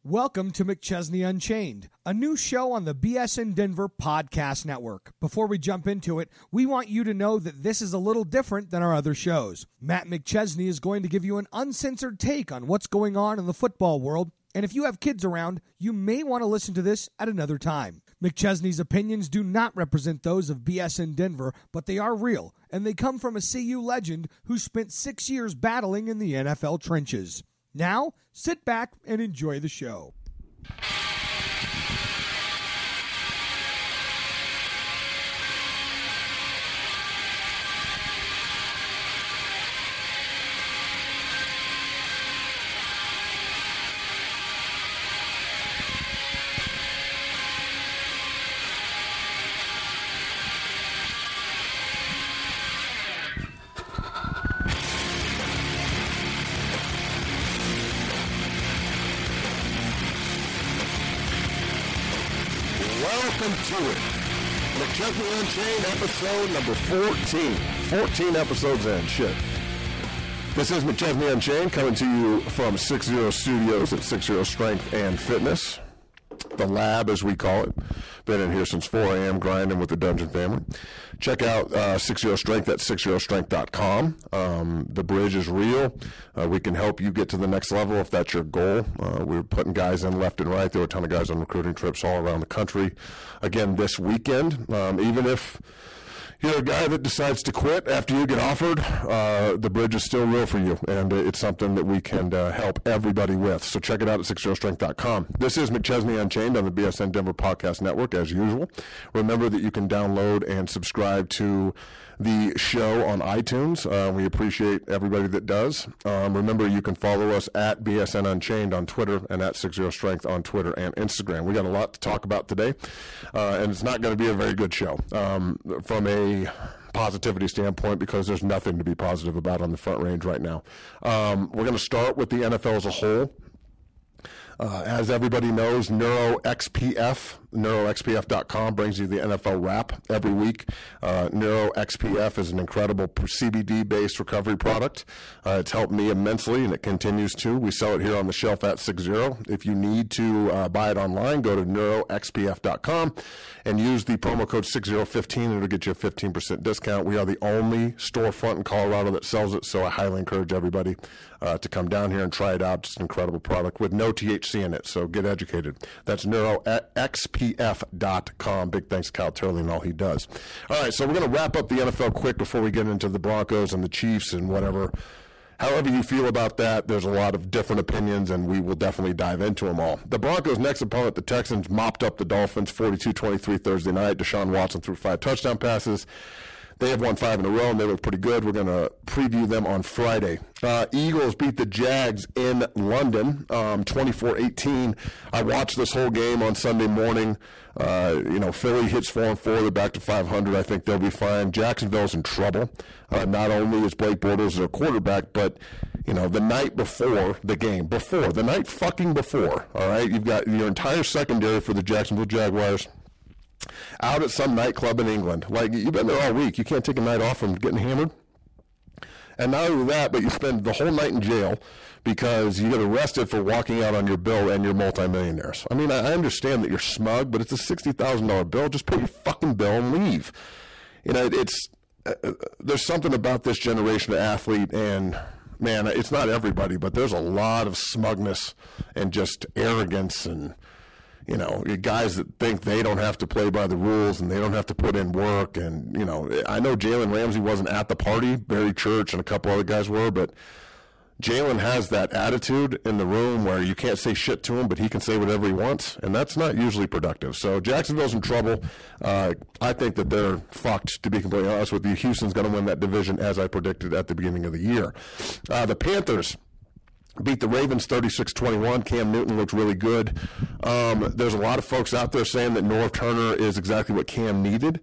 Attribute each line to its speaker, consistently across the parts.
Speaker 1: Welcome to McChesney Unchained, a new show on the BSN Denver Podcast Network. Before we jump into it, we want you to know that this is a little different than our other shows. Matt McChesney is going to give you an uncensored take on what's going on in the football world, and if you have kids around, you may want to listen to this at another time. McChesney's opinions do not represent those of BSN Denver, but they are real, and they come from a CU legend who spent 6 years battling in the NFL trenches. Now, sit back and enjoy the show.
Speaker 2: Welcome to it. McChesney Unchained, episode number 14. 14 episodes in. Shit. This is McChesney Unchained, coming to you from 60 Studios at 60 Strength and Fitness. The lab, as we call it. Been in here since 4 a.m. grinding with the Dungeon family. Check out 60 Strength at 60strength.com. The bridge is real. We can help you get to the next level if that's your goal. We're putting guys in left and right. There were a ton of guys on recruiting trips all around the country. Again, this weekend, even if you're a guy that decides to quit after you get offered, the bridge is still real for you, and it's something that we can help everybody with. So check it out at 60strength.com. This is McChesney Unchained on the BSN Denver Podcast Network, as usual. Remember that you can download and subscribe to the show on iTunes. We appreciate everybody that does. Remember, you can follow us at BSN Unchained on Twitter and at 60 Strength on Twitter and Instagram. We got a lot to talk about today, and it's not going to be a very good show from a positivity standpoint, because there's nothing to be positive about on the Front Range right now. We're going to start with the NFL as a whole. As everybody knows, NeuroXPF.com brings you the NFL wrap every week. NeuroXPF is an incredible CBD-based recovery product. It's helped me immensely, and it continues to. We sell it here on the shelf at 60. If you need to buy it online, go to NeuroXPF.com and use the promo code 6015, and it'll get you a 15% discount. We are the only storefront in Colorado that sells it, so I highly encourage everybody to come down here and try it out. It's an incredible product with no THC in it, so get educated. That's NeuroXPF.com. Big thanks to Kyle Turley and all he does. All right, so we're going to wrap up the NFL quick before we get into the Broncos and the Chiefs and whatever. However you feel about that, there's a lot of different opinions, and we will definitely dive into them all. The Broncos' next opponent, the Texans, mopped up the Dolphins 42-23 Thursday night. Deshaun Watson threw 5 touchdown passes. They have won 5 in a row, and they look pretty good. We're going to preview them on Friday. Eagles beat the Jags in London, 24-18. I watched this whole game on Sunday morning. Philly hits 4-4. They're back to 500. I think they'll be fine. Jacksonville's in trouble. Not only is Blake Bortles their quarterback, but the night before the game, the night fucking before, all right, you've got your entire secondary for the Jacksonville Jaguars out at some nightclub in England. Like, you've been there all week. You can't take a night off from getting hammered. And not only that, but you spend the whole night in jail because you get arrested for walking out on your bill, and you're multimillionaires. I mean, I understand that you're smug, but it's a $60,000 bill. Just pay your fucking bill and leave. There's something about this generation of athlete, and man, it's not everybody, but there's a lot of smugness and just arrogance and guys that think they don't have to play by the rules and they don't have to put in work. And, I know Jalen Ramsey wasn't at the party. Barry Church and a couple other guys were, but Jalen has that attitude in the room where you can't say shit to him, but he can say whatever he wants, and that's not usually productive. So Jacksonville's in trouble. I think that they're fucked, to be completely honest with you. Houston's going to win that division, as I predicted at the beginning of the year. The Panthers beat the Ravens 36-21. Cam Newton looked really good. There's a lot of folks out there saying that Norv Turner is exactly what Cam needed.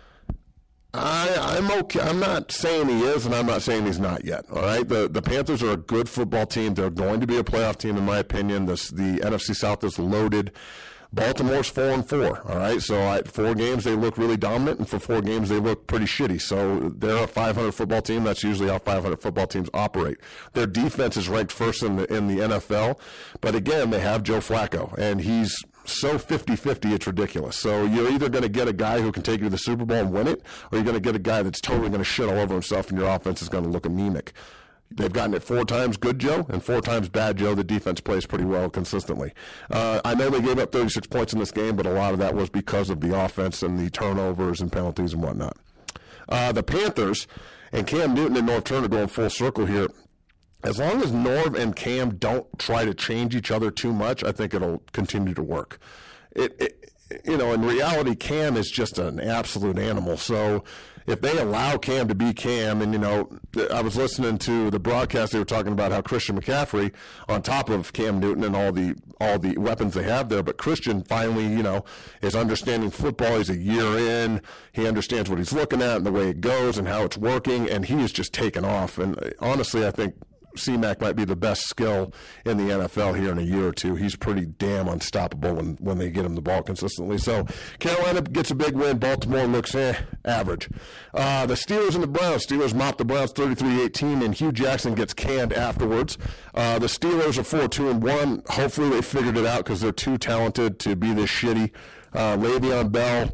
Speaker 2: I'm okay. I'm not saying he is, and I'm not saying he's not yet. All right, the Panthers are a good football team. They're going to be a playoff team, in my opinion. The NFC South is loaded. Baltimore's 4-4, all right? So at 4 games, they look really dominant, and for 4 games, they look pretty shitty. So they're a 500 football team. That's usually how 500 football teams operate. Their defense is ranked first in the NFL, but again, they have Joe Flacco, and he's so 50-50, it's ridiculous. So you're either going to get a guy who can take you to the Super Bowl and win it, or you're going to get a guy that's totally going to shit all over himself, and your offense is going to look anemic. They've gotten it 4 times good Joe and 4 times bad Joe. The defense plays pretty well consistently. I know they gave up 36 points in this game, but a lot of that was because of the offense and the turnovers and penalties and whatnot. The Panthers and Cam Newton and Norv Turner going full circle here. As long as Norv and Cam don't try to change each other too much, I think it'll continue to work. In reality, Cam is just an absolute animal. So if they allow Cam to be Cam, and, I was listening to the broadcast, they were talking about how Christian McCaffrey, on top of Cam Newton and all the weapons they have there, but Christian finally, is understanding football. He's a year in. He understands what he's looking at and the way it goes and how it's working, and he is just taken off. And honestly, I think C-Mac might be the best skill in the NFL here in a year or two. He's pretty damn unstoppable when they get him the ball consistently. So Carolina gets a big win. Baltimore looks average. The Steelers and the Browns. Steelers mopped the Browns 33-18, and Hugh Jackson gets canned afterwards. The Steelers are 4-2-1. Hopefully they figured it out because they're too talented to be this shitty. Le'Veon Bell.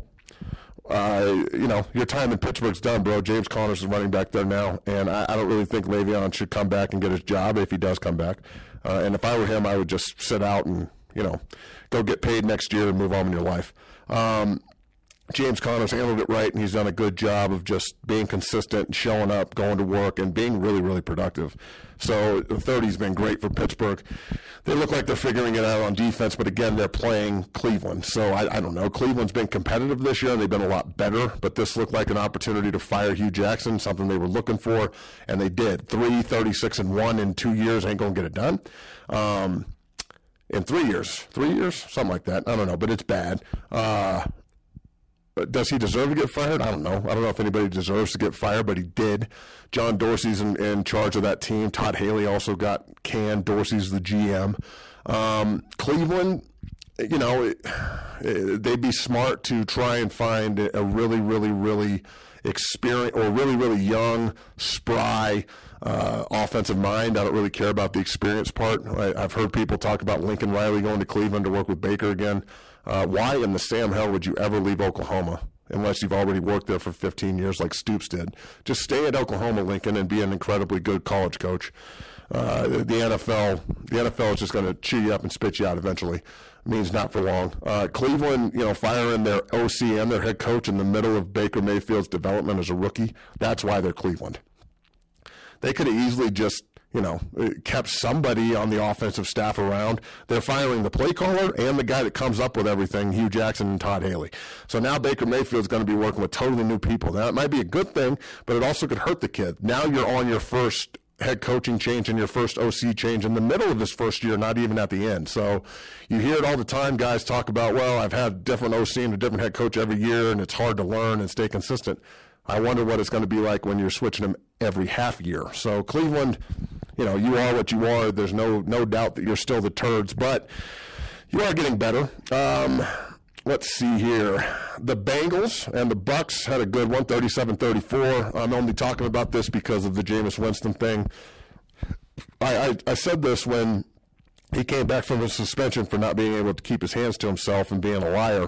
Speaker 2: Your time in Pittsburgh's done, bro. James Conner's is running back there now, and I don't really think Le'Veon should come back and get his job if he does come back. And if I were him, I would just sit out and, go get paid next year and move on in your life. James Conner's handled it right, and he's done a good job of just being consistent and showing up, going to work, and being really, really productive. So the 30's been great for Pittsburgh. They look like they're figuring it out on defense, but again, they're playing Cleveland. So I don't know. Cleveland's been competitive this year, and they've been a lot better, but this looked like an opportunity to fire Hugh Jackson, something they were looking for, and they did. 36-1 in 2 years ain't going to get it done. In 3 years, something like that. I don't know, but it's bad. Does he deserve to get fired? I don't know. I don't know if anybody deserves to get fired, but he did. John Dorsey's in charge of that team. Todd Haley also got canned. Dorsey's the GM. Cleveland, they'd be smart to try and find a really, really, really experienced or really, really young, spry offensive mind. I don't really care about the experience part. I've heard people talk about Lincoln Riley going to Cleveland to work with Baker again. Why in the Sam hell would you ever leave Oklahoma unless you've already worked there for 15 years like Stoops did? Just stay at Oklahoma, Lincoln, and be an incredibly good college coach. The NFL is just going to chew you up and spit you out eventually. It means not for long. Cleveland, firing their OC and their head coach in the middle of Baker Mayfield's development as a rookie, that's why they're Cleveland. They could have easily just kept somebody on the offensive staff around. They're firing the play caller and the guy that comes up with everything, Hugh Jackson and Todd Haley. So now Baker Mayfield's going to be working with totally new people. Now, it might be a good thing, but it also could hurt the kid. Now you're on your first head coaching change and your first OC change in the middle of his first year, not even at the end. So you hear it all the time. Guys talk about, well, I've had different OC and a different head coach every year, and it's hard to learn and stay consistent. I wonder what it's going to be like when you're switching them every half year. So Cleveland, you are what you are. There's no doubt that you're still the turds, but you are getting better. Let's see here. The Bengals and the Bucks had a good one, 37-34. I'm only talking about this because of the Jameis Winston thing. I said this when he came back from his suspension for not being able to keep his hands to himself and being a liar,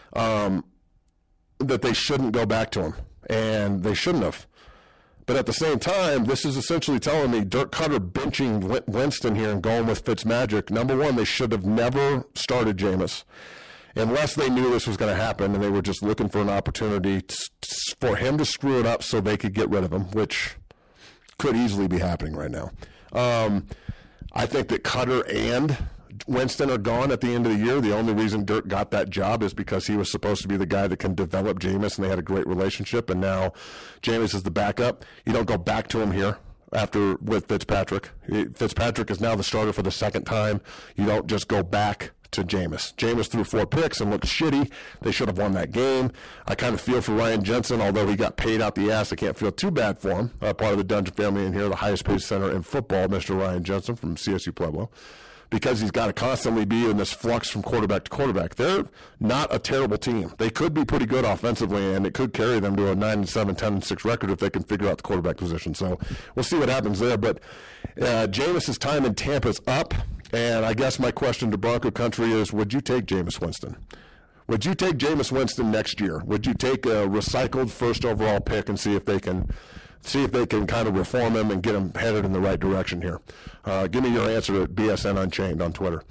Speaker 2: that they shouldn't go back to him, and they shouldn't have. But at the same time, this is essentially telling me Dirk Cutter benching Winston here and going with Fitzmagic. Number one, they should have never started Jameis unless they knew this was going to happen and they were just looking for an opportunity for him to screw it up so they could get rid of him, which could easily be happening right now. I think that Cutter and Winston are gone at the end of the year. The only reason Dirk got that job is because he was supposed to be the guy that can develop Jameis, and they had a great relationship, and now Jameis is the backup. You don't go back to him here with Fitzpatrick. Fitzpatrick is now the starter for the second time. You don't just go back to Jameis. Jameis threw 4 picks and looked shitty. They should have won that game. I kind of feel for Ryan Jensen, although he got paid out the ass. I can't feel too bad for him. Part of the Dungeon family in here, the highest paid center in football, Mr. Ryan Jensen from CSU Pueblo. because he's got to constantly be in this flux from quarterback to quarterback. They're not a terrible team. They could be pretty good offensively, and it could carry them to a 9-7, 10-6 record if they can figure out the quarterback position. So we'll see what happens there. But Jameis's time in Tampa is up, and I guess my question to Bronco Country is, would you take Jameis Winston? Would you take Jameis Winston next year? Would you take a recycled first overall pick and see if they can kind of reform him and get him headed in the right direction here? Give me your answer at BSN Unchained on Twitter.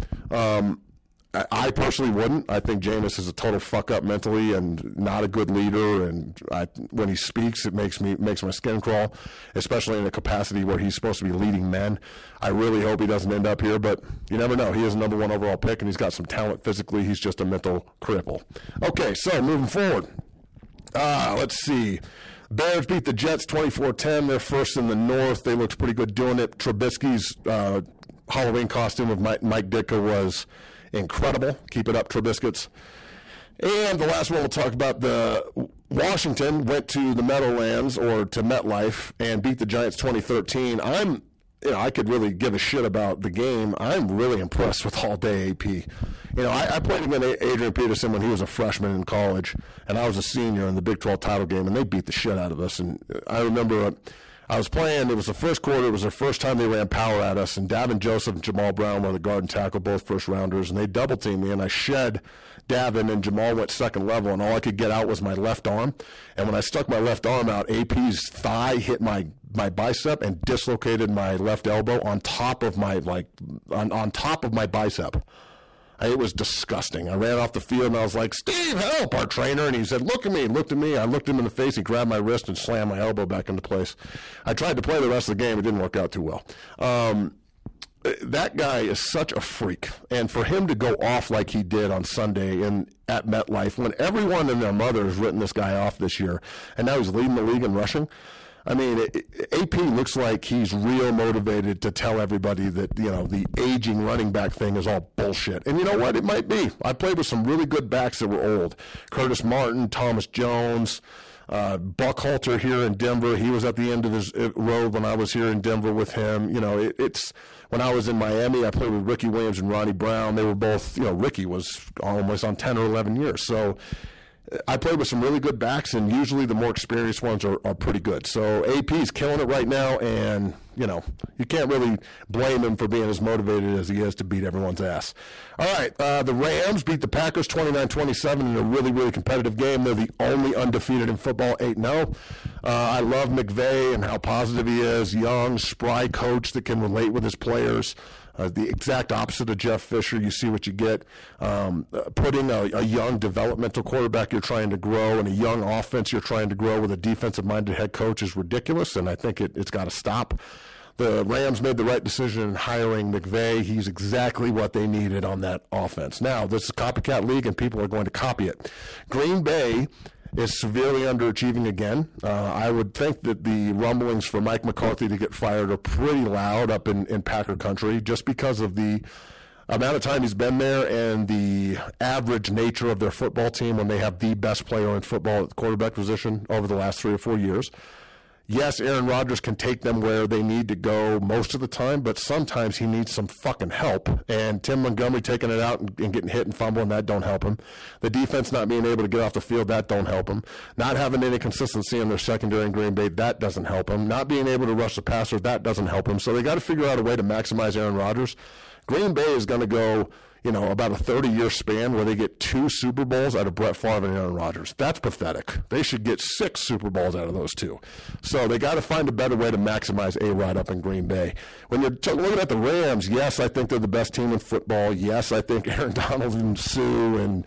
Speaker 2: I personally wouldn't. I think Jameis is a total fuck up mentally and not a good leader. And when he speaks, it makes my skin crawl, especially in a capacity where he's supposed to be leading men. I really hope he doesn't end up here, but you never know. He is a number 1 overall pick, and he's got some talent physically. He's just a mental cripple. Okay, so moving forward. Let's see. Bears beat the Jets 24-10. They're first in the North. They looked pretty good doing it. Trubisky's Halloween costume of Mike Ditka was incredible. Keep it up, Trubiscuits. And the last one we'll talk about, the Washington went to the Meadowlands or to MetLife and beat the Giants 2013. I could really give a shit about the game. I'm really impressed with all-day AP. I played against Adrian Peterson when he was a freshman in college, and I was a senior in the Big 12 title game, and they beat the shit out of us. And I remember I was playing, it was the first quarter, it was their first time they ran power at us, and Davin Joseph and Jamal Brown were the guard and tackle, both first-rounders, and they double-teamed me, and I shed Davin, and Jamal went second level, and all I could get out was my left arm. And when I stuck my left arm out, AP's thigh hit my bicep and dislocated my left elbow on top of my on top of my bicep. It was disgusting. I ran off the field and I was like, "Steve, help!" Our trainer, and he said, "Look at me." He looked at me. I looked him in the face. He grabbed my wrist and slammed my elbow back into place. I tried to play the rest of the game. It didn't work out too well. That guy is such a freak, and for him to go off like he did on Sunday at MetLife, when everyone and their mother has written this guy off this year, and now he's leading the league in rushing. I mean, AP looks like he's real motivated to tell everybody that, the aging running back thing is all bullshit. And you know what? It might be. I played with some really good backs that were old. Curtis Martin, Thomas Jones, Buckhalter here in Denver. He was at the end of his road when I was here in Denver with him. It's when I was in Miami, I played with Ricky Williams and Ronnie Brown. They were both, Ricky was almost on 10 or 11 years. So I played with some really good backs, and usually the more experienced ones are pretty good. So AP's killing it right now, and, you can't really blame him for being as motivated as he is to beat everyone's ass. All right, the Rams beat the Packers 29-27 in a really, really competitive game. They're the only undefeated in football, 8-0. I love McVay and how positive he is. Young, spry coach that can relate with his players. The exact opposite of Jeff Fisher. You see what you get. Putting a young developmental quarterback you're trying to grow and a young offense you're trying to grow with a defensive-minded head coach is ridiculous, and I think it's got to stop. The Rams made the right decision in hiring McVay. He's exactly what they needed on that offense. Now, this is a copycat league, and people are going to copy it. Green Bay is severely underachieving again. I would think that the rumblings for Mike McCarthy to get fired are pretty loud up in Packer country just because of the amount of time he's been there and the average nature of their football team when they have the best player in football at the quarterback position over the last 3 or 4 years. Yes, Aaron Rodgers can take them where they need to go most of the time, but sometimes he needs some fucking help. And Tim Montgomery taking it out and getting hit and fumbling, that don't help him. The defense not being able to get off the field, that don't help him. Not having any consistency in their secondary in Green Bay, that doesn't help him. Not being able to rush the passer, that doesn't help him. So they got to figure out a way to maximize Aaron Rodgers. Green Bay is going to go, about a 30-year span where they get 2 Super Bowls out of Brett Favre and Aaron Rodgers. That's pathetic. They should get 6 Super Bowls out of those 2. So they got to find a better way to maximize A-Rod up in Green Bay. When you're looking at the Rams, yes, I think they're the best team in football. Yes, I think Aaron Donald and Sue and,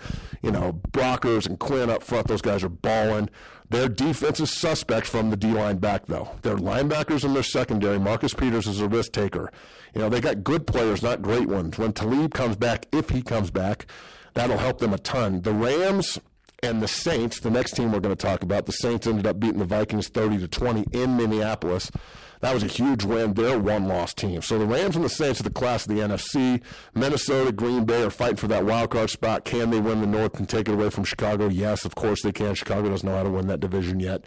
Speaker 2: Brockers and Quinn up front, those guys are balling. Their defense is suspect from the D-line back, though. Their linebackers and their secondary, Marcus Peters is a risk taker. They got good players, not great ones. When Talib comes back, if he comes back, that'll help them a ton. The Rams and the Saints, the next team we're going to talk about, the Saints ended up beating the Vikings 30-20 in Minneapolis. That was a huge win. They're a one-loss team. So the Rams and the Saints are the class of the NFC. Minnesota, Green Bay are fighting for that wild card spot. Can they win the North and take it away from Chicago? Yes, of course they can. Chicago doesn't know how to win that division yet.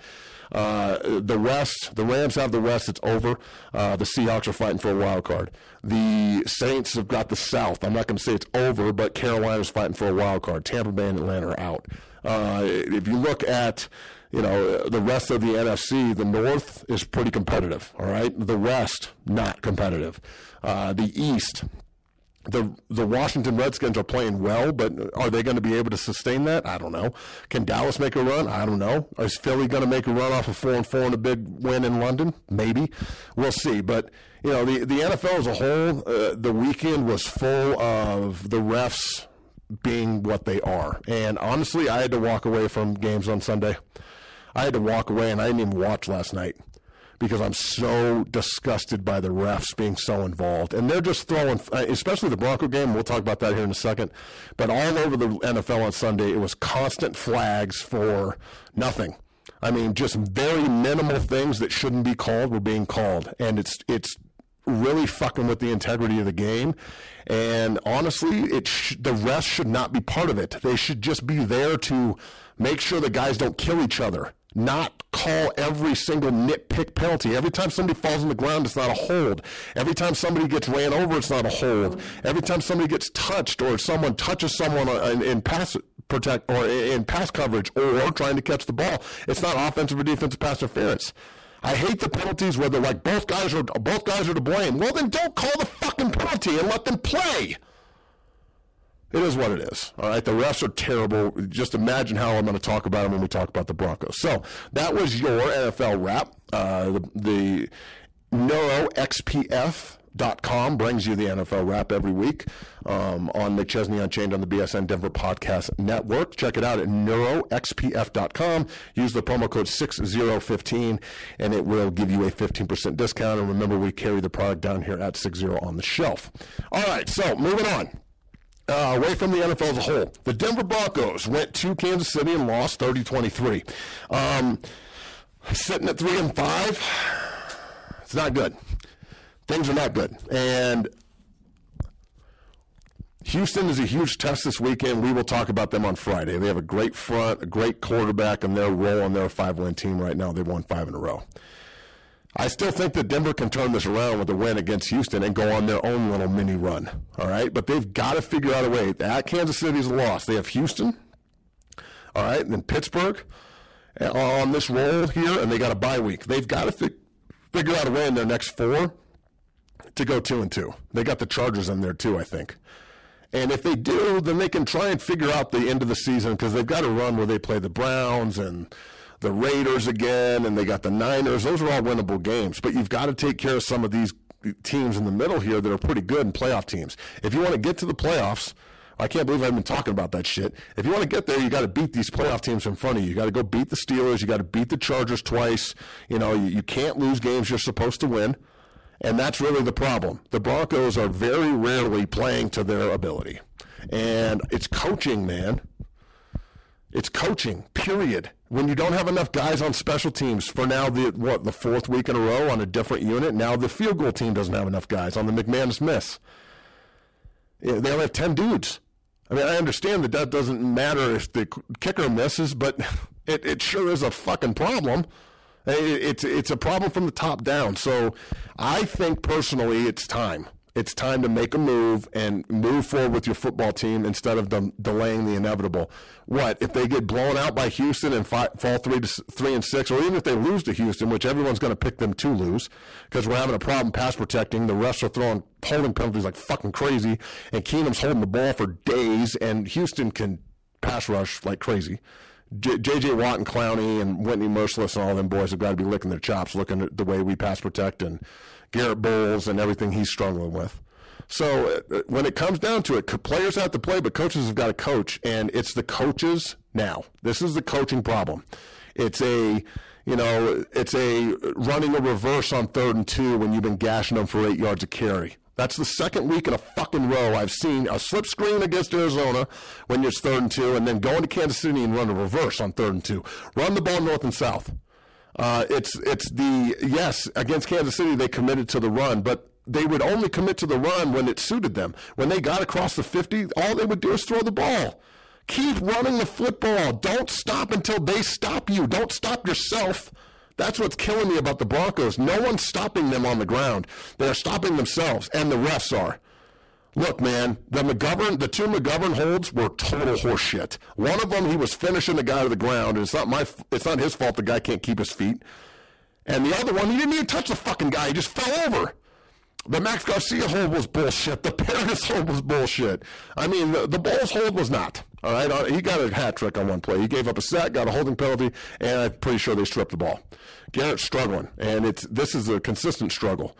Speaker 2: The West, the Rams have the West. It's over. The Seahawks are fighting for a wild card. The Saints have got the South. I'm not going to say it's over, but Carolina's fighting for a wild card. Tampa Bay and Atlanta are out. If you look at the rest of the NFC, the North is pretty competitive, all right? The West, not competitive. The East, the Washington Redskins are playing well, but are they going to be able to sustain that? I don't know. Can Dallas make a run? I don't know. Is Philly going to make a run off of 4-4 and a big win in London? Maybe. We'll see. But, the NFL as a whole, the weekend was full of the refs being what they are. And honestly, I had to walk away from games on Sunday. I had to walk away, and I didn't even watch last night because I'm so disgusted by the refs being so involved. And they're just throwing, especially the Bronco game, we'll talk about that here in a second, but all over the NFL on Sunday, it was constant flags for nothing. I mean, just very minimal things that shouldn't be called were being called. And it's really fucking with the integrity of the game. And honestly, the refs should not be part of it. They should just be there to make sure the guys don't kill each other, not call every single nitpick penalty. Every time somebody falls on the ground, it's not a hold. Every time somebody gets ran over, it's not a hold. Every time somebody gets touched or someone touches someone in pass protect or in pass coverage or trying to catch the ball, it's not offensive or defensive pass interference. I hate the penalties where they're like both guys are to blame. Well, then don't call the fucking penalty and let them play. It is what it is. All right, the refs are terrible. Just imagine how I'm going to talk about them when we talk about the Broncos. So that was your NFL wrap. The NeuroXPF.com brings you the NFL wrap every week on McChesney Unchained on the BSN Denver Podcast Network. Check it out at NeuroXPF.com. Use the promo code 6015, and it will give you a 15% discount. And remember, we carry the product down here at 60 on the shelf. All right, so moving on. Away from the NFL as a whole, the Denver Broncos went to Kansas City and lost 30-23. Sitting at 3-5, it's not good. Things are not good. And Houston is a huge test this weekend. We will talk about them on Friday. They have a great front, a great quarterback, and they're rolling. They're a 5-win team right now. They've won 5 in a row. I still think that Denver can turn this around with a win against Houston and go on their own little mini run, all right? But they've got to figure out a way. At Kansas City's a loss. They have Houston, all right, and then Pittsburgh on this roll here, and they got a bye week. They've got to figure out a way in their next 4 to go 2-2. They got the Chargers in there too, I think. And if they do, then they can try and figure out the end of the season because they've got a run where they play the Browns and the Raiders again, and they got the Niners. Those are all winnable games. But you've got to take care of some of these teams in the middle here that are pretty good and playoff teams. If you want to get to the playoffs, I can't believe I've been talking about that shit. If you want to get there, you got to beat these playoff teams in front of you. You got to go beat the Steelers. You got to beat the Chargers twice. You can't lose games you're supposed to win. And that's really the problem. The Broncos are very rarely playing to their ability. And it's coaching, man. It's coaching, period. When you don't have enough guys on special teams for now, the 4th week in a row on a different unit, now the field goal team doesn't have enough guys on the McManus miss. They only have 10 dudes. I mean, I understand that doesn't matter if the kicker misses, but it sure is a fucking problem. It's a problem from the top down. So I think personally it's time. It's time to make a move and move forward with your football team instead of delaying the inevitable. What if they get blown out by Houston and fall 3-6, or even if they lose to Houston, which everyone's going to pick them to lose because we're having a problem pass protecting. The refs are throwing holding penalties like fucking crazy, and Keenum's holding the ball for days, and Houston can pass rush like crazy. J.J. Watt and Clowney and Whitney Merciless and all them boys have got to be licking their chops looking at the way we pass protect and Garrett Bowles and everything he's struggling with. So when it comes down to it, players have to play, but coaches have got to coach, and it's the coaches now. This is the coaching problem. It's a running a reverse on 3rd and 2 when you've been gashing them for 8 yards of carry. That's the second week in a fucking row I've seen a slip screen against Arizona when it's 3rd and 2, and then going to Kansas City and run a reverse on 3rd and 2. Run the ball north and south. Against Kansas City they committed to the run, but they would only commit to the run when it suited them. When they got across the 50, all they would do is throw the ball. Keep running the football. Don't stop until they stop you. Don't stop yourself. That's what's killing me about the Broncos. No one's stopping them on the ground. They're stopping themselves, and the refs are. Look, man, the two McGovern holds were total horseshit. One of them, he was finishing the guy to the ground, and it's not his fault the guy can't keep his feet. And the other one, he didn't even touch the fucking guy. He just fell over. The Max Garcia hold was bullshit. The Paradis hold was bullshit. I mean, the Bowles hold was not. All right, he got a hat trick on one play. He gave up a sack, got a holding penalty, and I'm pretty sure they stripped the ball. Garrett's struggling, and this is a consistent struggle.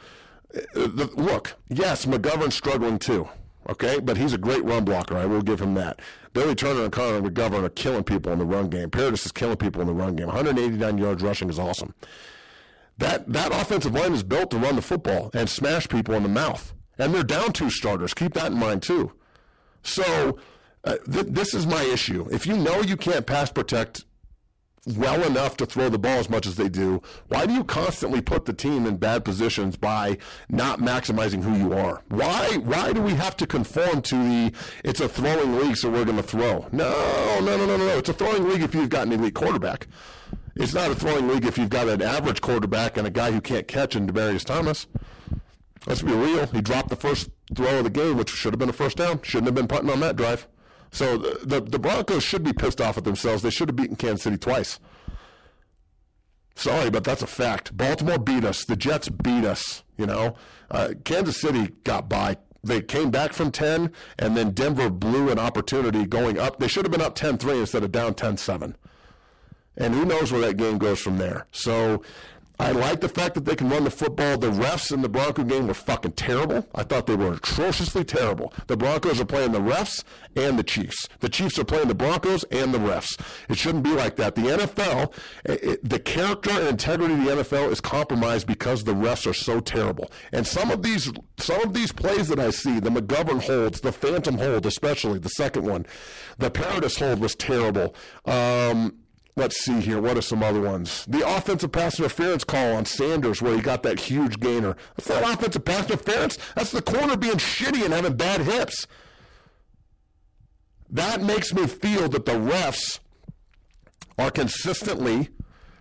Speaker 2: Look, yes, McGovern's struggling too, okay? But he's a great run blocker. I will give him that. Billy Turner and Connor McGovern are killing people in the run game. Paradis is killing people in the run game. 189 yards rushing is awesome. That offensive line is built to run the football and smash people in the mouth. And they're down 2 starters. Keep that in mind, too. So this is my issue. If you know you can't pass protect well enough to throw the ball as much as they do, why do you constantly put the team in bad positions by not maximizing who you are? Why do we have to conform to it's a throwing league, so we're going to throw? No. It's a throwing league if you've got an elite quarterback. It's not a throwing league if you've got an average quarterback and a guy who can't catch in Demaryius Thomas. Let's be real. He dropped the first throw of the game, which should have been a first down. Shouldn't have been punting on that drive. So the Broncos should be pissed off at themselves. They should have beaten Kansas City twice. Sorry, but that's a fact. Baltimore beat us. The Jets beat us, Kansas City got by. They came back from 10, and then Denver blew an opportunity going up. They should have been up 10-3 instead of down 10-7. And who knows where that game goes from there. So I like the fact that they can run the football. The refs in the Bronco game were fucking terrible. I thought they were atrociously terrible. The Broncos are playing the refs and the Chiefs. The Chiefs are playing the Broncos and the refs. It shouldn't be like that. The NFL, the character and integrity of the NFL is compromised because the refs are so terrible. And some of these plays that I see, the McGovern holds, the Phantom hold especially, the second one, the Paradis hold was terrible. Let's see here. What are some other ones? The offensive pass interference call on Sanders where he got that huge gainer. That's not offensive pass interference. That's the corner being shitty and having bad hips. That makes me feel that the refs are consistently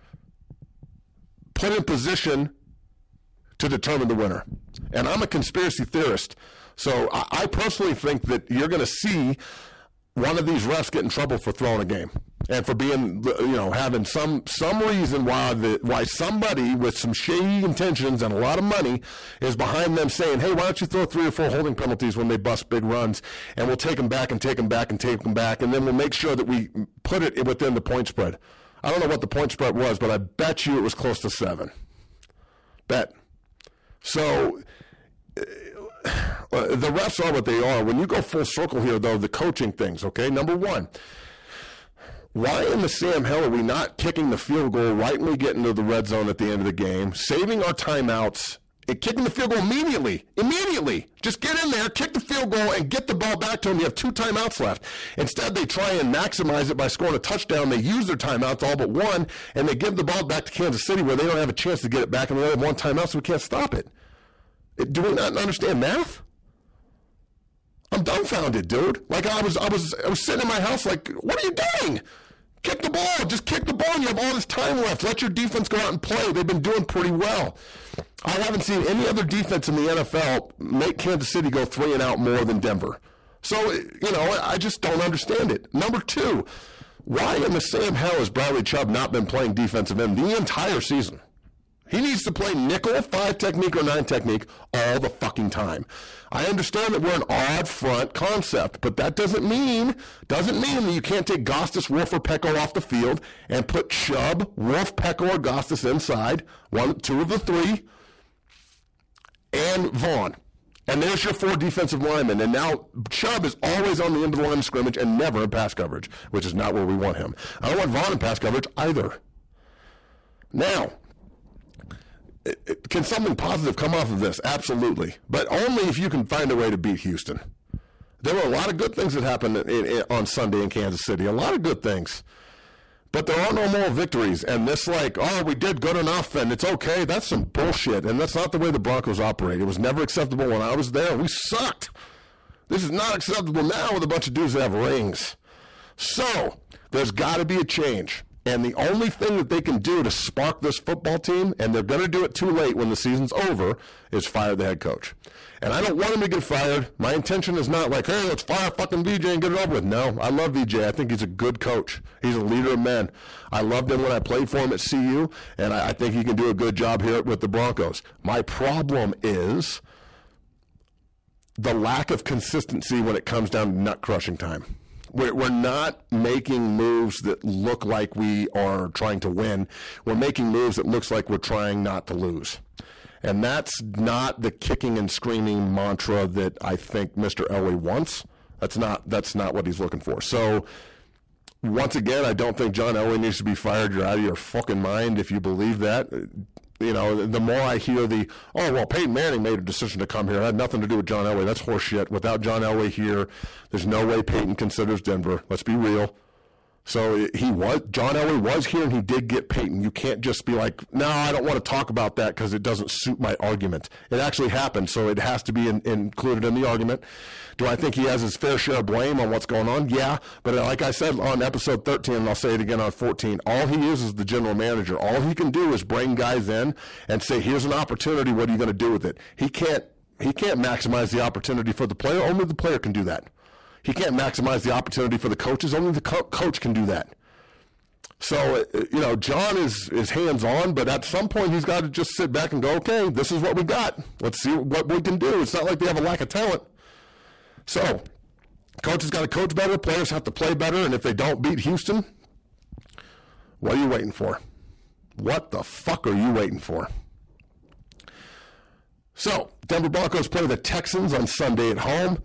Speaker 2: put in position to determine the winner. And I'm a conspiracy theorist. So I personally think that you're going to see one of these refs get in trouble for throwing a game. And for being, having some reason why somebody with some shady intentions and a lot of money is behind them saying, hey, why don't you throw 3 or 4 holding penalties when they bust big runs, and we'll take them back and take them back and take them back, and then we'll make sure that we put it within the point spread. I don't know what the point spread was, but I bet you it was close to 7. Bet. So the refs are what they are. When you go full circle here, though, the coaching things, okay? Number one, why in the Sam hell are we not kicking the field goal right when we get into the red zone at the end of the game, saving our timeouts, and kicking the field goal immediately? Immediately. Just get in there, kick the field goal, and get the ball back to them. You have 2 timeouts left. Instead, they try and maximize it by scoring a touchdown. They use their timeouts, all but one, and they give the ball back to Kansas City where they don't have a chance to get it back, and they only have 1 timeout, so we can't stop it. Do we not understand math? I'm dumbfounded, dude. Like I was sitting in my house like, what are you doing? Kick the ball. Just kick the ball. You have all this time left. Let your defense go out and play. They've been doing pretty well. I haven't seen any other defense in the NFL make Kansas City go 3 and out more than Denver. So, I just don't understand it. Number 2, why in the Sam hell has Bradley Chubb not been playing defensive end the entire season? He needs to play nickel, 5 technique or 9 technique all the fucking time. I understand that we're an odd front concept, but that doesn't mean that you can't take Gostis, Wolf, or Pecco off the field and put Chubb, Wolf, Pecco, or Gostis inside, 2 of the 3, and Vaughn. And there's your 4 defensive linemen. And now Chubb is always on the end of the line of scrimmage and never in pass coverage, which is not where we want him. I don't want Vaughn in pass coverage either. Now, can something positive come off of this? Absolutely. But only if you can find a way to beat Houston. There were a lot of good things that happened on Sunday in Kansas City. A lot of good things. But there are no moral victories. And this we did good enough and it's okay. That's some bullshit. And that's not the way the Broncos operate. It was never acceptable when I was there. We sucked. This is not acceptable now with a bunch of dudes that have rings. So, there's got to be a change. And the only thing that they can do to spark this football team, and they're going to do it too late when the season's over, is fire the head coach. And I don't want him to get fired. My intention is not like, hey, let's fire fucking VJ and get it over with. No, I love VJ. I think he's a good coach. He's a leader of men. I loved him when I played for him at CU, and I think he can do a good job here with the Broncos. My problem is the lack of consistency when it comes down to nut-crushing time. We're not making moves that look like we are trying to win. We're making moves that looks like we're trying not to lose. And that's not the kicking and screaming mantra that I think Mr. Elway wants. That's not what he's looking for. So, once again, I don't think John Elway needs to be fired. You're out of your fucking mind if you believe that. You know, the more I hear Peyton Manning made a decision to come here. It had nothing to do with John Elway. That's horseshit. Without John Elway here, there's no way Peyton considers Denver. Let's be real. So John Elway was here and he did get Peyton. You can't just be like, no, I don't want to talk about that because it doesn't suit my argument. It actually happened, so it has to be included in the argument. Do I think he has his fair share of blame on what's going on? Yeah, but like I said on episode 13, and I'll say it again on 14, all he is the general manager. All he can do is bring guys in and say, here's an opportunity, what are you going to do with it? He can't maximize the opportunity for the player. Only the player can do that. He can't maximize the opportunity for the coaches. Only the coach can do that. So, John is hands-on, but at some point he's got to just sit back and go, okay, this is what we got. Let's see what we can do. It's not like they have a lack of talent. So, coaches got to coach better. Players have to play better. And if they don't beat Houston, what are you waiting for? What the fuck are you waiting for? So, Denver Broncos play the Texans on Sunday at home.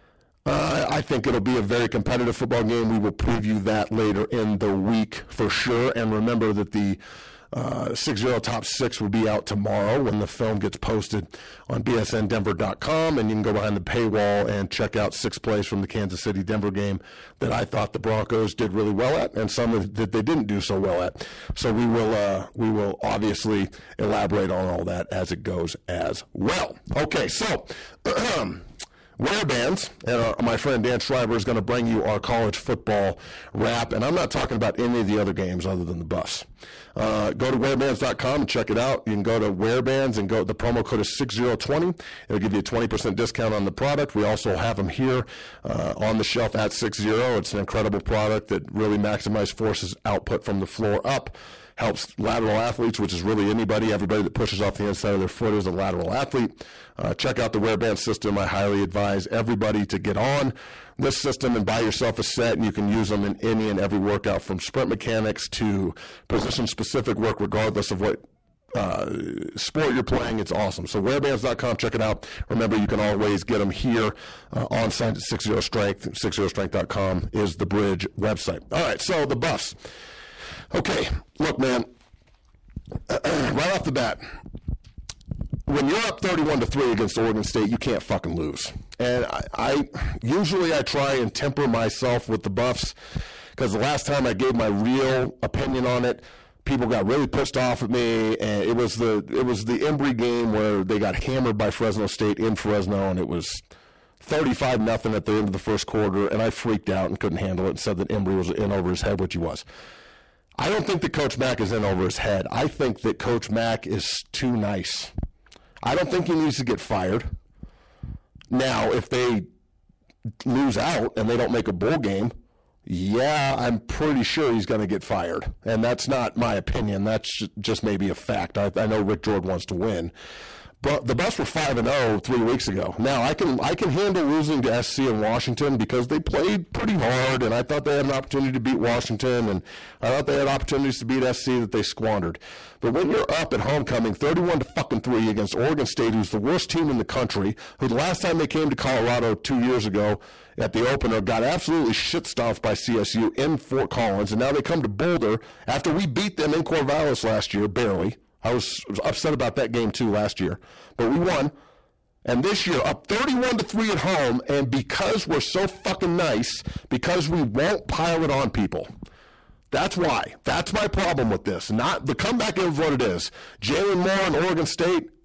Speaker 2: I think it'll be a very competitive football game. We will preview that later in the week for sure. And remember that the 6-0 Top 6 will be out tomorrow when the film gets posted on bsndenver.com. And you can go behind the paywall and check out 6 plays from the Kansas City-Denver game that I thought the Broncos did really well at and some that they didn't do so well at. So we will obviously elaborate on all that as it goes as well. Okay, so Wear Bands, and my friend Dan Schreiber is going to bring you our college football wrap, and I'm not talking about any of the other games other than the Buffs. Go to wearbands.com and check it out. You can go to Wearbands and the promo code is 6020. It'll give you a 20% discount on the product. We also have them here on the shelf at 60. It's an incredible product that really maximizes forces output from the floor up. Helps lateral athletes, which is really everybody that pushes off the inside of their foot is a lateral athlete. Check out the Wearband system. I highly advise everybody to get on this system and buy yourself a set, and you can use them in any and every workout from sprint mechanics to position-specific work, regardless of what sport you're playing. It's awesome. So wearbands.com, check it out. Remember, you can always get them here on site at 60 Strength. 60strength.com is the Bridge website. All right, so the Buffs. Okay, look, man, right off the bat, when you're up 31-3 against Oregon State, you can't fucking lose. And I usually try and temper myself with the Buffs because the last time I gave my real opinion on it, people got really pissed off at me, and it was the Embry game where they got hammered by Fresno State in Fresno, and it was 35-0 at the end of the first quarter, and I freaked out and couldn't handle it and said that Embry was in over his head, which he was. I don't think that Coach Mack is in over his head. I think that Coach Mack is too nice. I don't think he needs to get fired. Now, if they lose out and they don't make a bowl game, yeah, I'm pretty sure he's going to get fired. And that's not my opinion. That's just maybe a fact. I know Rick Jordan wants to win. But the Buffs were 5-0 3 weeks ago. Now, I can handle losing to SC in Washington because they played pretty hard, and I thought they had an opportunity to beat Washington, and I thought they had opportunities to beat SC that they squandered. But when you're up at homecoming 31-3 against Oregon State, who's the worst team in the country, who the last time they came to Colorado 2 years ago at the opener got absolutely shit-stomped by CSU in Fort Collins, and now they come to Boulder after we beat them in Corvallis last year, barely. I was upset about that game, too, last year. But we won. And this year, up 31-3 at home, and because we're so fucking nice, because we won't pile it on people. That's why. That's my problem with this. Not the comeback is what it is. Jalen Moore and Oregon State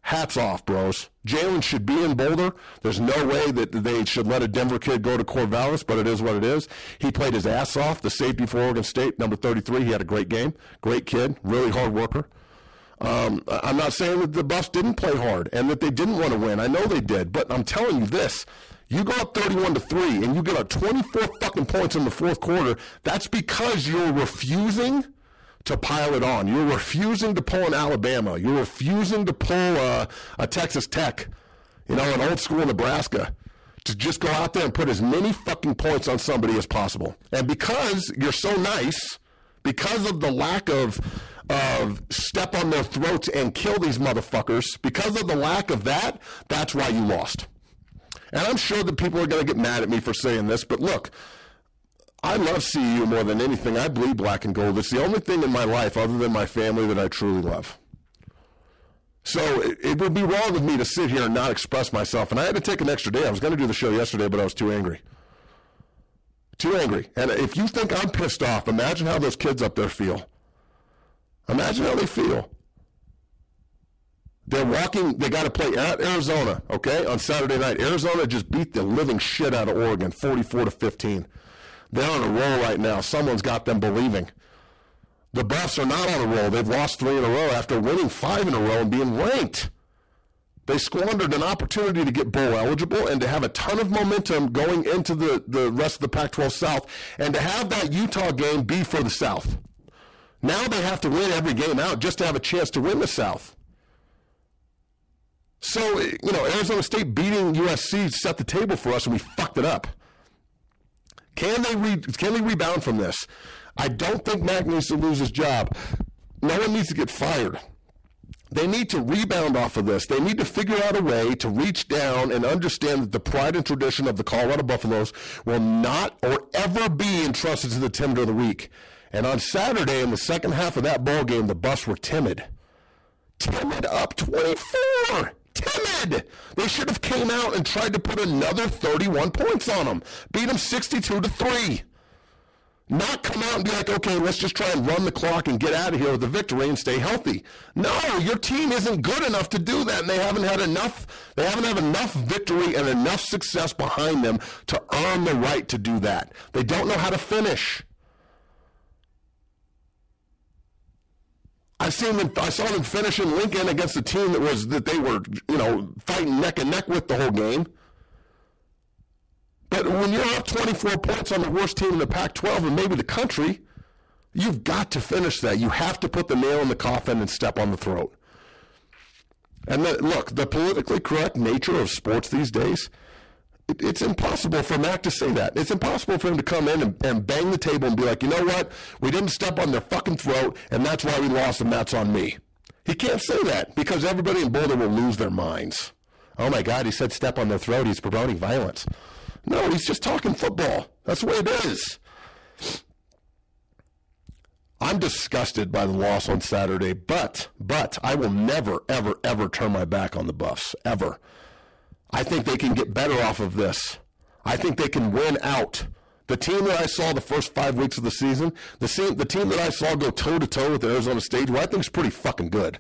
Speaker 2: Hats off, bros. Jalen should be in Boulder. There's no way that they should let a Denver kid go to Corvallis, but it is what it is. He played his ass off. The safety for Oregon State, number 33, he had a great game. Great kid, really hard worker. I'm not saying that the Buffs didn't play hard and that they didn't want to win. I know they did, but I'm telling you this. You go up 31-3 and you get up 24 fucking points in the fourth quarter. That's because you're refusing to pile it on. You're refusing to pull an Alabama. You're refusing to pull a Texas Tech, an old school Nebraska, to just go out there and put as many fucking points on somebody as possible. And because you're so nice, because of the lack of step on their throats and kill these motherfuckers, because of the lack of that, that's why you lost. And I'm sure that people are going to get mad at me for saying this, but look, I love CU more than anything. I bleed black and gold. It's the only thing in my life other than my family that I truly love. So it would be wrong of me to sit here and not express myself. And I had to take an extra day. I was going to do the show yesterday, but I was too angry. Too angry. And if you think I'm pissed off, imagine how those kids up there feel. Imagine how they feel. They're walking, they got to play at Arizona, okay, on Saturday night. Arizona just beat the living shit out of Oregon, 44-15. They're on a roll right now. Someone's got them believing. The Buffs are not on a roll. They've lost 3 in a row after winning 5 in a row and being ranked. They squandered an opportunity to get bowl eligible and to have a ton of momentum going into the rest of the Pac-12 South and to have that Utah game be for the South. Now they have to win every game out just to have a chance to win the South. So, Arizona State beating USC set the table for us, and we fucked it up. Can they rebound from this? I don't think Mac needs to lose his job. No one needs to get fired. They need to rebound off of this. They need to figure out a way to reach down and understand that the pride and tradition of the Colorado Buffaloes will not or ever be entrusted to the timid of the weak. And on Saturday, in the second half of that ball game, the Buffs were timid. Timid up 24. Timid. They should have came out and tried to put another 31 points on them. Beat them 62-3. Not come out and be like, okay, let's just try and run the clock and get out of here with a victory and stay healthy. No, your team isn't good enough to do that, and they haven't had enough victory and enough success behind them to earn the right to do that. They don't know how to finish. I saw them finish in Lincoln against a team that they were, fighting neck and neck with the whole game. But when you're up 24 points on the worst team in the Pac-12 and maybe the country, you've got to finish that. You have to put the nail in the coffin and step on the throat. And look, the politically correct nature of sports these days, it's impossible for Mac to say that. It's impossible for him to come in and bang the table and be like, you know what? We didn't step on their fucking throat, and that's why we lost, and that's on me. He can't say that because everybody in Boulder will lose their minds. Oh, my God, he said step on their throat. He's promoting violence. No, he's just talking football. That's the way it is. I'm disgusted by the loss on Saturday, but I will never, ever, ever turn my back on the Buffs, ever. I think they can get better off of this. I think they can win out. The team that I saw the first 5 weeks of the season, the team that I saw go toe-to-toe with Arizona State, who I think is pretty fucking good.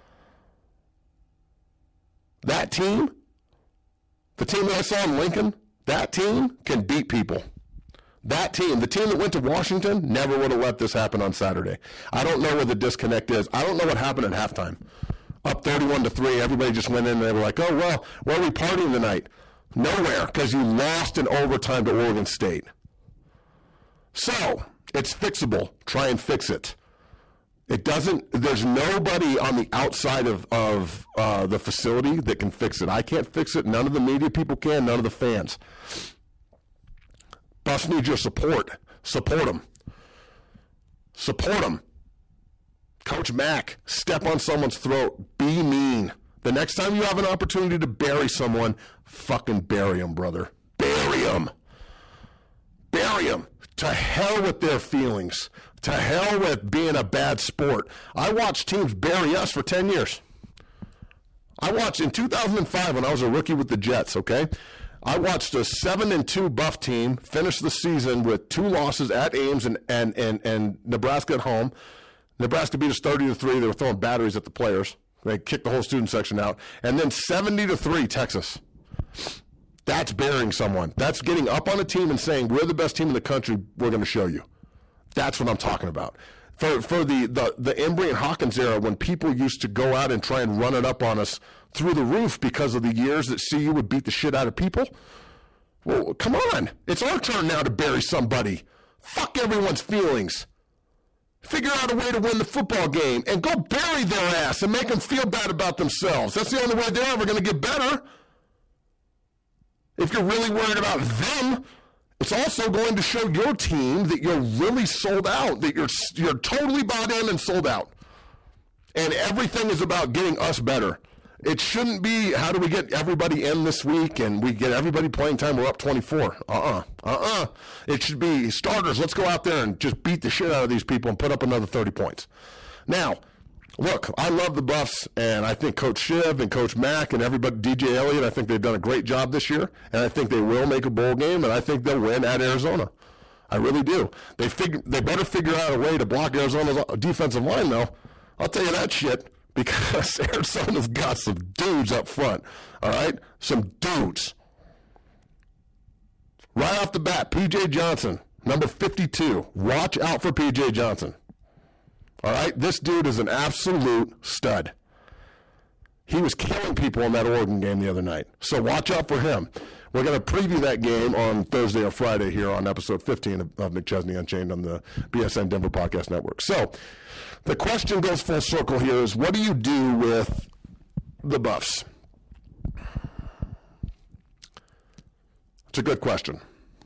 Speaker 2: That team, the team that I saw in Lincoln, that team can beat people. That team, the team that went to Washington, never would have let this happen on Saturday. I don't know where the disconnect is. I don't know what happened at halftime. Up 31-3, everybody just went in and they were like, oh, well, where are we partying tonight? Nowhere, because you lost in overtime to Oregon State. So, it's fixable. Try and fix it. There's nobody on the outside of the facility that can fix it. I can't fix it. None of the media people can. None of the fans. Buffs need your support. Support them. Support them. Coach Mack, step on someone's throat. Be mean. The next time you have an opportunity to bury someone, fucking bury them, brother. Bury them. Bury them. To hell with their feelings. To hell with being a bad sport. I watched teams bury us for 10 years. I watched in 2005 when I was a rookie with the Jets, okay? I watched a 7-2 Buff team finish the season with 2 losses at Ames and Nebraska at home. Nebraska beat us 30-3. They were throwing batteries at the players. They kicked the whole student section out. And then 70-3, Texas. That's burying someone. That's getting up on a team and saying, we're the best team in the country, we're going to show you. That's what I'm talking about. For the Embry and Hawkins era, when people used to go out and try and run it up on us through the roof because of the years that CU would beat the shit out of people, well, come on. It's our turn now to bury somebody. Fuck everyone's feelings. Figure out a way to win the football game and go bury their ass and make them feel bad about themselves. That's the only way they're ever going to get better. If you're really worried about them, it's also going to show your team that you're really sold out, that you're totally bought in and sold out. And everything is about getting us better. It shouldn't be, how do we get everybody in this week and we get everybody playing time, we're up 24. It should be starters. Let's go out there and just beat the shit out of these people and put up another 30 points. Now, look, I love the Buffs, and I think Coach Shiv and Coach Mack and everybody, DJ Elliott, I think they've done a great job this year, and I think they will make a bowl game, and I think they'll win at Arizona. I really do. They better figure out a way to block Arizona's defensive line, though. I'll tell you that shit. Because Arizona's got some dudes up front, all right? Some dudes. Right off the bat, P.J. Johnson, number 52. Watch out for P.J. Johnson. All right? This dude is an absolute stud. He was killing people in that Oregon game the other night. So watch out for him. We're going to preview that game on Thursday or Friday here on episode 15 of McChesney Unchained on the BSN Denver Podcast Network. So the question goes full circle here is, what do you do with the Buffs? It's a good question.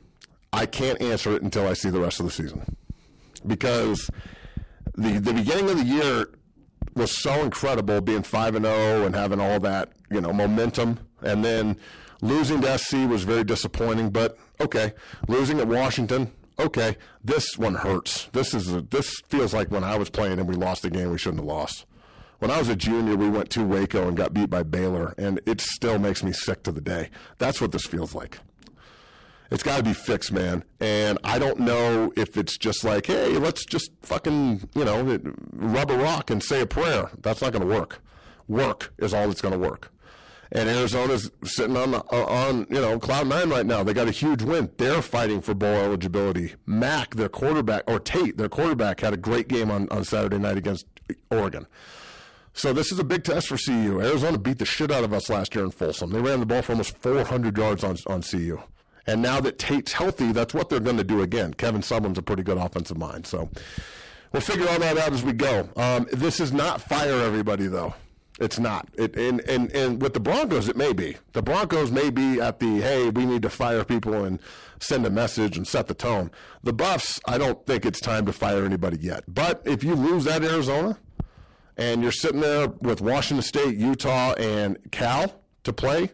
Speaker 2: I can't answer it until I see the rest of the season. Because the beginning of the year was so incredible, being 5-0 and having all that, momentum. And then losing to SC was very disappointing, but okay. Losing at Washington, okay. This one hurts. This feels like when I was playing and we lost a game we shouldn't have lost. When I was a junior, we went to Waco and got beat by Baylor, and it still makes me sick to the day. That's what this feels like. It's got to be fixed, man. And I don't know if it's just like, hey, let's just fucking, rub a rock and say a prayer. That's not going to work. Work is all that's going to work. And Arizona's sitting on cloud nine right now. They got a huge win. They're fighting for bowl eligibility. Mack, their quarterback, or Tate, their quarterback, had a great game on Saturday night against Oregon. So this is a big test for CU. Arizona beat the shit out of us last year in Folsom. They ran the ball for almost 400 yards on CU. And now that Tate's healthy, that's what they're going to do again. Kevin Sumlin's a pretty good offensive mind. So we'll figure all that out as we go. This is not fire everybody, though. It's not. And with the Broncos, it may be. The Broncos may be at the, hey, we need to fire people and send a message and set the tone. The Buffs, I don't think it's time to fire anybody yet. But if you lose at Arizona and you're sitting there with Washington State, Utah, and Cal to play,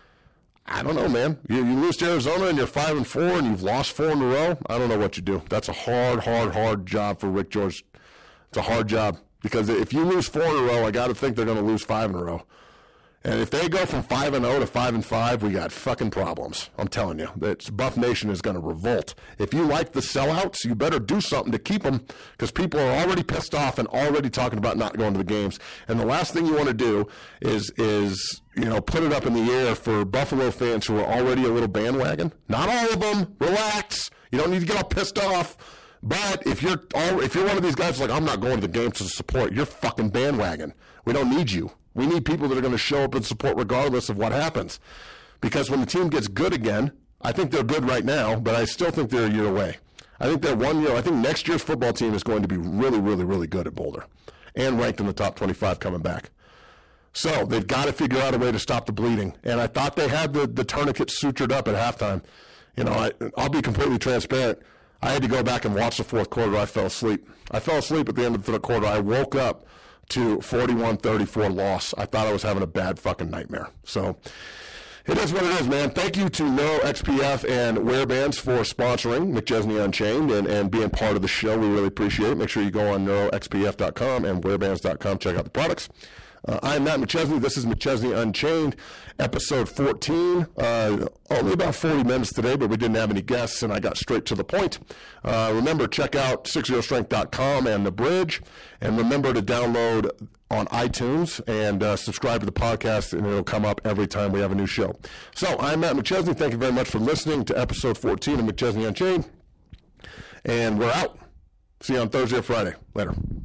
Speaker 2: I don't know, man. You lose to Arizona and you're 5-4 and you've lost 4 in a row. I don't know what you do. That's a hard job for Rick George. It's a hard job because if you lose 4 in a row, I got to think they're going to lose 5 in a row. And if they go from 5-0 to 5-5, we got fucking problems. I'm telling you, Buff Nation is going to revolt. If you like the sellouts, you better do something to keep them because people are already pissed off and already talking about not going to the games. And the last thing you want to do is put it up in the air for Buffalo fans who are already a little bandwagon. Not all of them. Relax. You don't need to get all pissed off. But if you're one of these guys like, I'm not going to the games to support, you're fucking bandwagon. We don't need you. We need people that are going to show up and support regardless of what happens. Because when the team gets good again, I think they're good right now, but I still think they're a year away. I think they're 1 year. I think next year's football team is going to be really, really, really good at Boulder and ranked in the top 25 coming back. So they've got to figure out a way to stop the bleeding. And I thought they had the tourniquet sutured up at halftime. I'll be completely transparent. I had to go back and watch the fourth quarter. I fell asleep. I fell asleep at the end of the quarter. I woke up to 41-34 loss. I thought I was having a bad fucking nightmare. So it is what it is, man. Thank you to NeuroXPF and Wearbands for sponsoring McChesney Unchained and being part of the show. We really appreciate it. Make sure you go on neuroxpf.com and wearbands.com. Check out the products. I'm Matt McChesney. This is McChesney Unchained, episode 14. Only about 40 minutes today, but we didn't have any guests, and I got straight to the point. Remember, check out 60strength.com and The Bridge, and remember to download on iTunes and subscribe to the podcast, and it'll come up every time we have a new show. So, I'm Matt McChesney. Thank you very much for listening to episode 14 of McChesney Unchained, and we're out. See you on Thursday or Friday. Later.